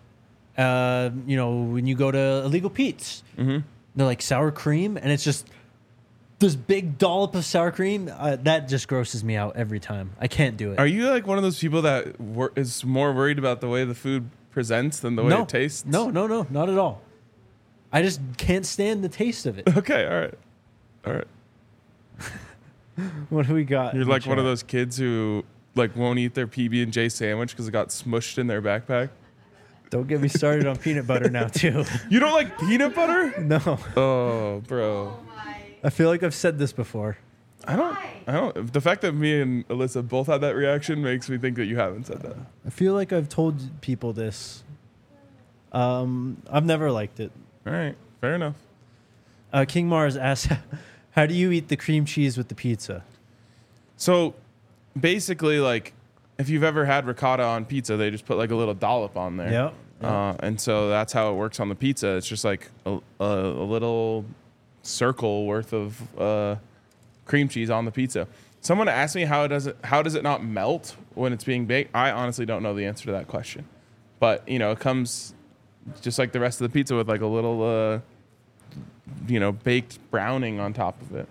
when you go to Illegal Pete's, they're like sour cream, and it's just this big dollop of sour cream. That just grosses me out every time. I can't do it. Are you like one of those people that is more worried about the way the food presents than the way No, it tastes? no, not at all. I just can't stand the taste of it. Okay, all right. What do we got? You're in the like one of chat? those kids who like won't eat their PB&J sandwich because it got smushed in their backpack. Don't get me started on peanut butter now, too. You don't like peanut butter? No, Oh, bro. I feel like I've said this before. I don't. The fact that me and Alyssa both had that reaction makes me think that you haven't said that. I feel like I've told people this. I've never liked it. All right, fair enough. King Mars asks, how do you eat the cream cheese with the pizza? So, basically, like, if you've ever had ricotta on pizza, they just put like a little dollop on there. Yep. And so that's how it works on the pizza. It's just like a little circle worth of cream cheese on the pizza. Someone asked me how does it not melt when it's being baked? I honestly don't know the answer to that question. But, it comes just like the rest of the pizza with like a little baked browning on top of it.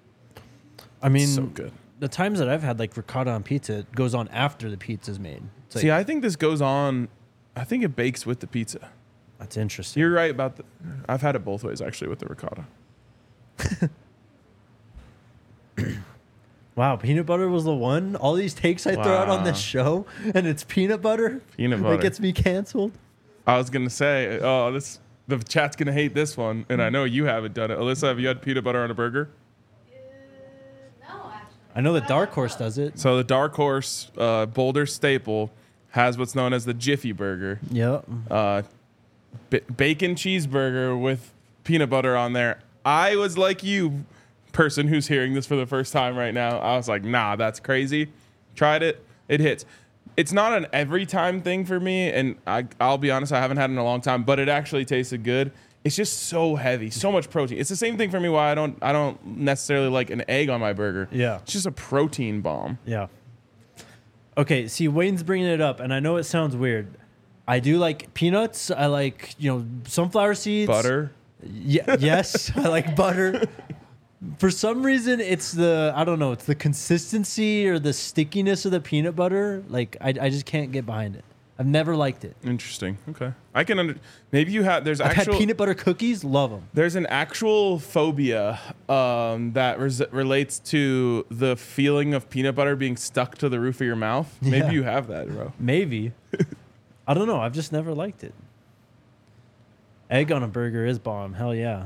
I mean, So good. the times that I've had like ricotta on pizza, it goes on after the pizza's made. It's like, See, I think this goes on. I think it bakes with the pizza. that's interesting. You're right about I've had it both ways actually with the ricotta. Wow, peanut butter was the one. All these takes I throw out on this show, and it's peanut butter. Peanut butter. That gets me canceled. I was gonna say, the chat's gonna hate this one, and I know you haven't done it. Alyssa, have you had peanut butter on a burger? No, actually. I know the Dark Horse does it. So the Dark Horse Boulder staple has what's known as the Jiffy Burger. Yep. Bacon cheeseburger with peanut butter on there. I was like you, person who's hearing this for the first time right now. I was like, nah, that's crazy. Tried it. It hits. It's not an every time thing for me, and I'll be honest, I haven't had it in a long time, but it actually tasted good. It's just so heavy, so much protein. It's the same thing for me why I don't necessarily like an egg on my burger. Yeah. It's just a protein bomb. Yeah. Okay, see, Wayne's bringing it up, and I know it sounds weird. I do like peanuts. I like, sunflower seeds. Butter. Yeah, yes, I like butter. For some reason, it's it's the consistency or the stickiness of the peanut butter. Like, I just can't get behind it. I've never liked it. Interesting. Okay. I can maybe you have, I've had peanut butter cookies, love them. There's an actual phobia that relates to the feeling of peanut butter being stuck to the roof of your mouth. Maybe Yeah. you have that, bro. Maybe. I don't know. I've just never liked it. Egg on a burger is bomb. Hell yeah.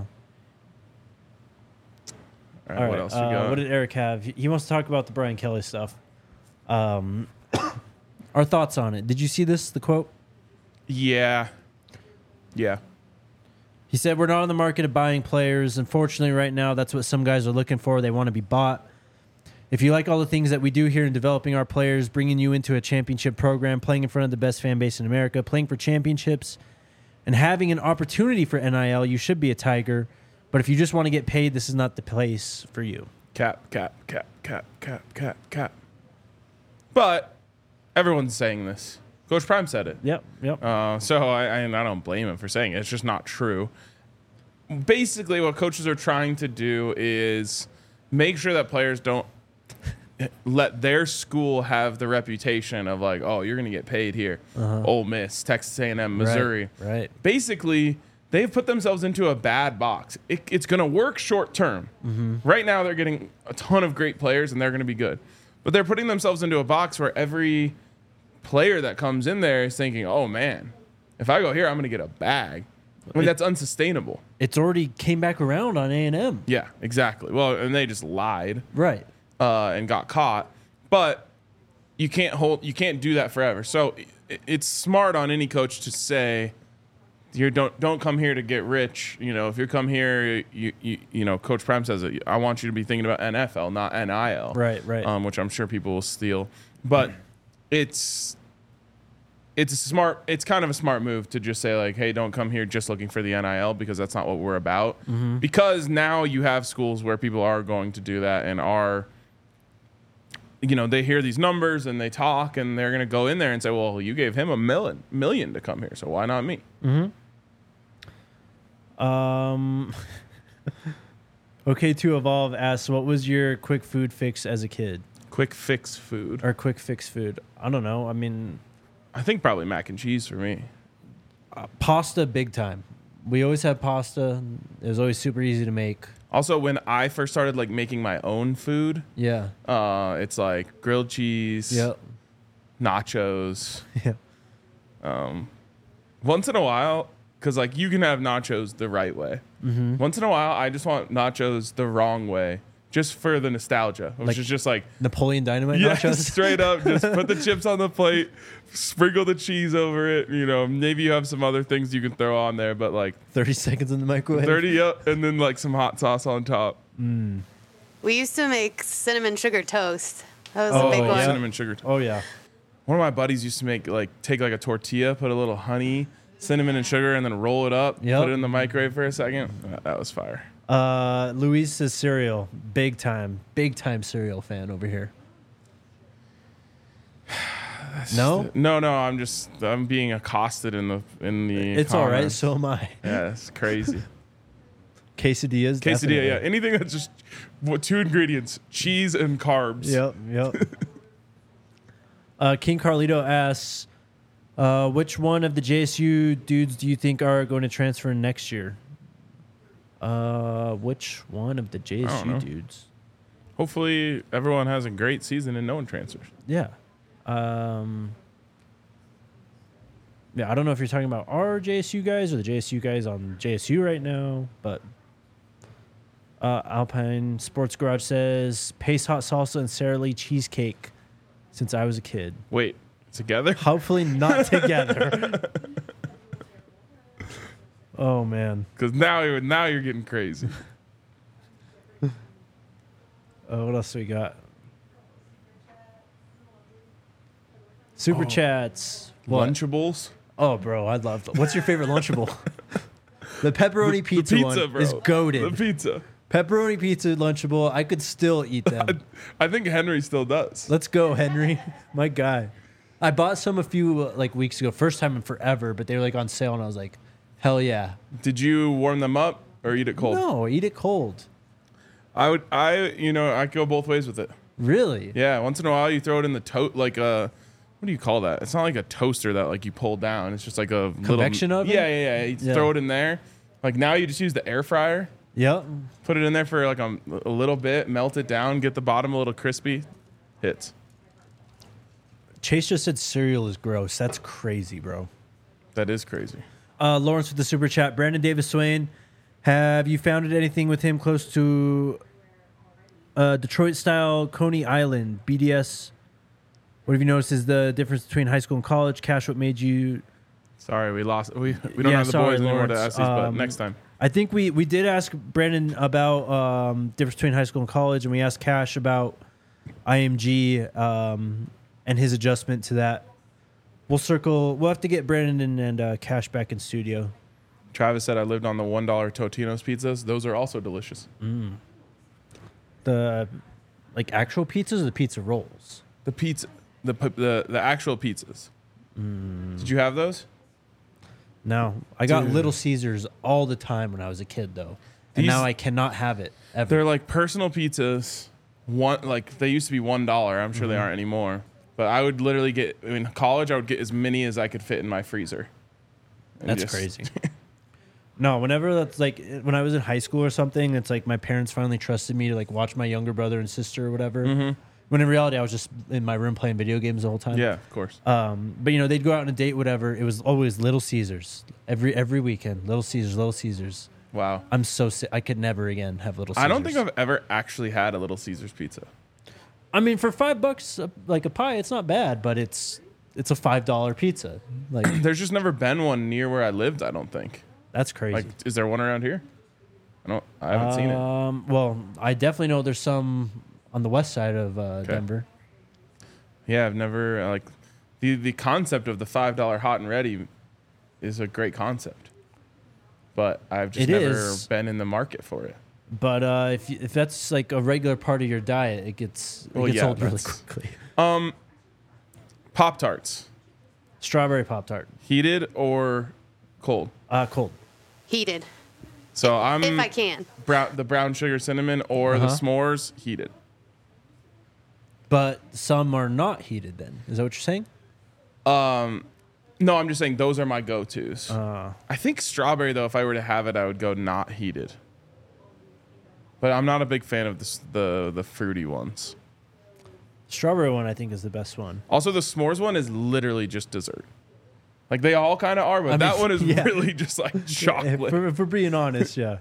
All right, what else you got? What did Eric have? He wants to talk about the Brian Kelly stuff. Our thoughts on it. Did you see this, the quote? Yeah. He said, "We're not on the market of buying players. Unfortunately, right now, that's what some guys are looking for. They want to be bought. If you like all the things that we do here in developing our players, bringing you into a championship program, playing in front of the best fan base in America, playing for championships, and having an opportunity for NIL, you should be a Tiger. But if you just want to get paid, this is not the place for you." Cap. But everyone's saying this. Coach Prime said it. Yep. So I don't blame him for saying it. It's just not true. Basically, what coaches are trying to do is make sure that players don't let their school have the reputation of like, oh, you're going to get paid here. Ole Miss, Texas A&M, Missouri. Right. Basically, they've put themselves into a bad box. It's going to work short term. Right now, they're getting a ton of great players, and they're going to be good. But they're putting themselves into a box where every player that comes in there is thinking, oh, man, if I go here, I'm going to get a bag. I mean, that's unsustainable. It's already came back around on A&M. Yeah, exactly. Well, and they just lied Right. and got caught. But you can't do that forever. So it's smart on any coach to say, don't come here to get rich. If you come here, Coach Prime says it. I want you to be thinking about NFL, not NIL. Right. Which I'm sure people will steal. But it's kind of a smart move to just say like, hey, don't come here just looking for the NIL, because that's not what we're about. Because now you have schools where people are going to do that and are, they hear these numbers and they talk and they're going to go in there and say, well, you gave him $1 million to come here, so why not me? Okay, to Evolve asks, what was your quick food fix as a kid? Quick fix food. Or quick fix food? I don't know. I mean, I think probably mac and cheese for me. Pasta, big time. We always had pasta. It was always super easy to make. Also, when I first started like making my own food, Yeah. it's like grilled cheese, Yep. nachos. Yeah. Once in a while, because like you can have nachos the right way. Once in a while, I just want nachos the wrong way, just for the nostalgia, which is just like Napoleon Dynamite yeah, nachos. straight up. Just put the chips on the plate, sprinkle the cheese over it. Maybe you have some other things you can throw on there, but like 30 seconds in the microwave. 30 up, and then like some hot sauce on top. We used to make cinnamon sugar toast. That was Oh, a big yeah. one. Cinnamon sugar. Oh, yeah. One of my buddies used to make take like a tortilla, put a little honey, cinnamon, and sugar, and then roll it up. Yep. Put it in the microwave for a second. That was fire. Luis says cereal. Big time cereal fan over here. No? No. I'm being accosted in the. It's all right. comments. So am I. Yeah, it's crazy. Quesadillas. Quesadilla, definitely. yeah. Anything that's just 2 ingredients: cheese and carbs. Yep. King Carlito asks, which one of the JSU dudes do you think are going to transfer next year? Which one of the I don't know. JSU dudes? Hopefully, everyone has a great season and no one transfers. Yeah. Yeah, I don't know if you're talking about our JSU guys or the JSU guys on JSU right now, but Alpine Sports Garage says Pace Hot Salsa and Sara Lee cheesecake since I was a kid. Wait, together? Hopefully not together. Oh, man. Because now you're getting crazy. What else do we got? Super chats. What? Lunchables? Oh, bro, I'd love that. What's your favorite Lunchable? The pepperoni pizza, one bro. is goated. The pizza. Pepperoni pizza Lunchable, I could still eat them. I think Henry still does. Let's go, Henry. My guy. I bought some a few weeks ago. First time in forever, but they were on sale, and I was like, hell yeah. Did you warm them up or eat it cold? No, eat it cold. I go both ways with it. Really? Yeah, once in a while you throw it in the what do you call that? It's not like a toaster that you pull down. It's just like a convection oven? Yeah. You throw it in there. Now you just use the air fryer. Yep. Put it in there for a little bit, melt it down, get the bottom a little crispy. Hits. Chase just said cereal is gross. That's crazy, bro. That is crazy. Lawrence with the super chat. Brandon Davis Swain, have you found anything with him close to Detroit style Coney Island BDS? What have you noticed is the difference between high school and college? Cash, what made you? Sorry, we lost. We don't have the boys anymore to ask these, but next time. I think we did ask Brandon about difference between high school and college, and we asked Cash about IMG and his adjustment to that. We'll have to get Brandon and Cash back in studio. Travis said I lived on the $1 Totino's pizzas. Those are also delicious. The actual pizzas or the pizza rolls? The pizza, the actual pizzas. Did you have those? No, I got Little Caesars all the time when I was a kid, though, and now I cannot have it ever. They're like personal pizzas. They used to be $1. I'm sure they aren't anymore. But I would literally get in college. I would get as many as I could fit in my freezer. That's crazy. No, whenever that's when I was in high school or something, it's my parents finally trusted me to watch my younger brother and sister or whatever. Mm-hmm. When in reality, I was just in my room playing video games the whole time. Yeah, of course. But they'd go out on a date, whatever. It was always Little Caesars every weekend. Little Caesars. Wow. I'm so sick. I could never again have Little Caesars. I don't think I've ever actually had a Little Caesars pizza. I mean, for $5, a pie, it's not bad, but it's a $5 pizza. There's just never been one near where I lived. I don't think. That's crazy. Is there one around here? I haven't seen it. Well, I definitely know there's some on the west side of Denver. Yeah, I've never the concept of the $5 hot and ready is a great concept, but I've just never been in the market for it. But if that's a regular part of your diet, it gets old really quickly. Pop-Tarts. Strawberry Pop-Tart. Heated or cold? Cold. Heated. So if I can. The brown sugar cinnamon or the s'mores heated. But some are not heated then. Is that what you're saying? No, I'm just saying those are my go-tos. I think strawberry, though, if I were to have it, I would go not heated. But I'm not a big fan of the fruity ones. Strawberry one, I think, is the best one. Also, the s'mores one is literally just dessert. They all kind of are, but that one is really just chocolate. If we're being honest, yeah.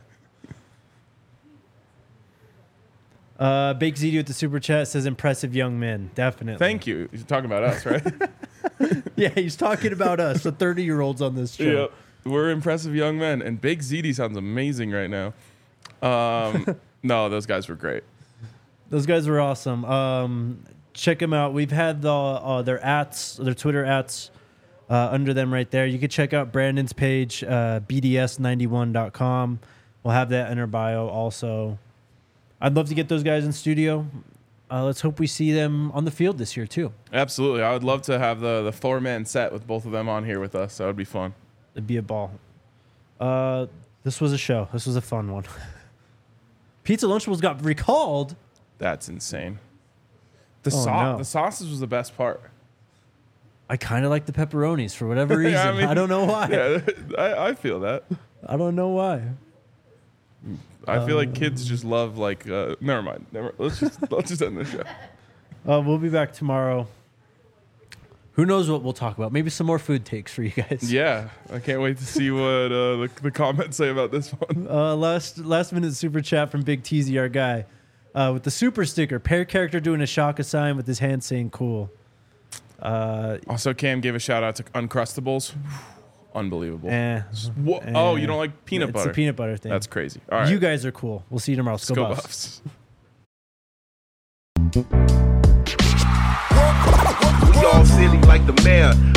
Bake Ziti with the super chat says impressive young men. Definitely. Thank you. He's talking about us, right? Yeah, he's talking about us, the 30-year-olds on this show. Yep. We're impressive young men. And Bake Ziti sounds amazing right now. No, those guys were great. Those guys were awesome. Check them out. We've had their Twitter ats under them right there. You can check out Brandon's page, bds91.com. We'll have that in our bio also. I'd love to get those guys in studio. Let's hope we see them on the field this year too. Absolutely. I would love to have the four-man set with both of them on here with us. That would be fun. It'd be a ball. This was a show. This was a fun one. Pizza Lunchables got recalled. That's insane. The sauces was the best part. I kind of like the pepperonis for whatever reason. I don't know why. Yeah, I feel that. I don't know why. I feel like kids just love like. Never mind. Let's just end the show. We'll be back tomorrow. Who knows what we'll talk about? Maybe some more food takes for you guys. Yeah, I can't wait to see what the comments say about this one. Last minute super chat from Big Teasy, our guy, with the super sticker. Pair character doing a Shaka sign with his hand saying "cool." Also, Cam gave a shout out to Uncrustables. Unbelievable. You don't like peanut butter? It's a peanut butter thing. That's crazy. All right, you guys are cool. We'll see you tomorrow. Go Buffs. We all silly like the mayor.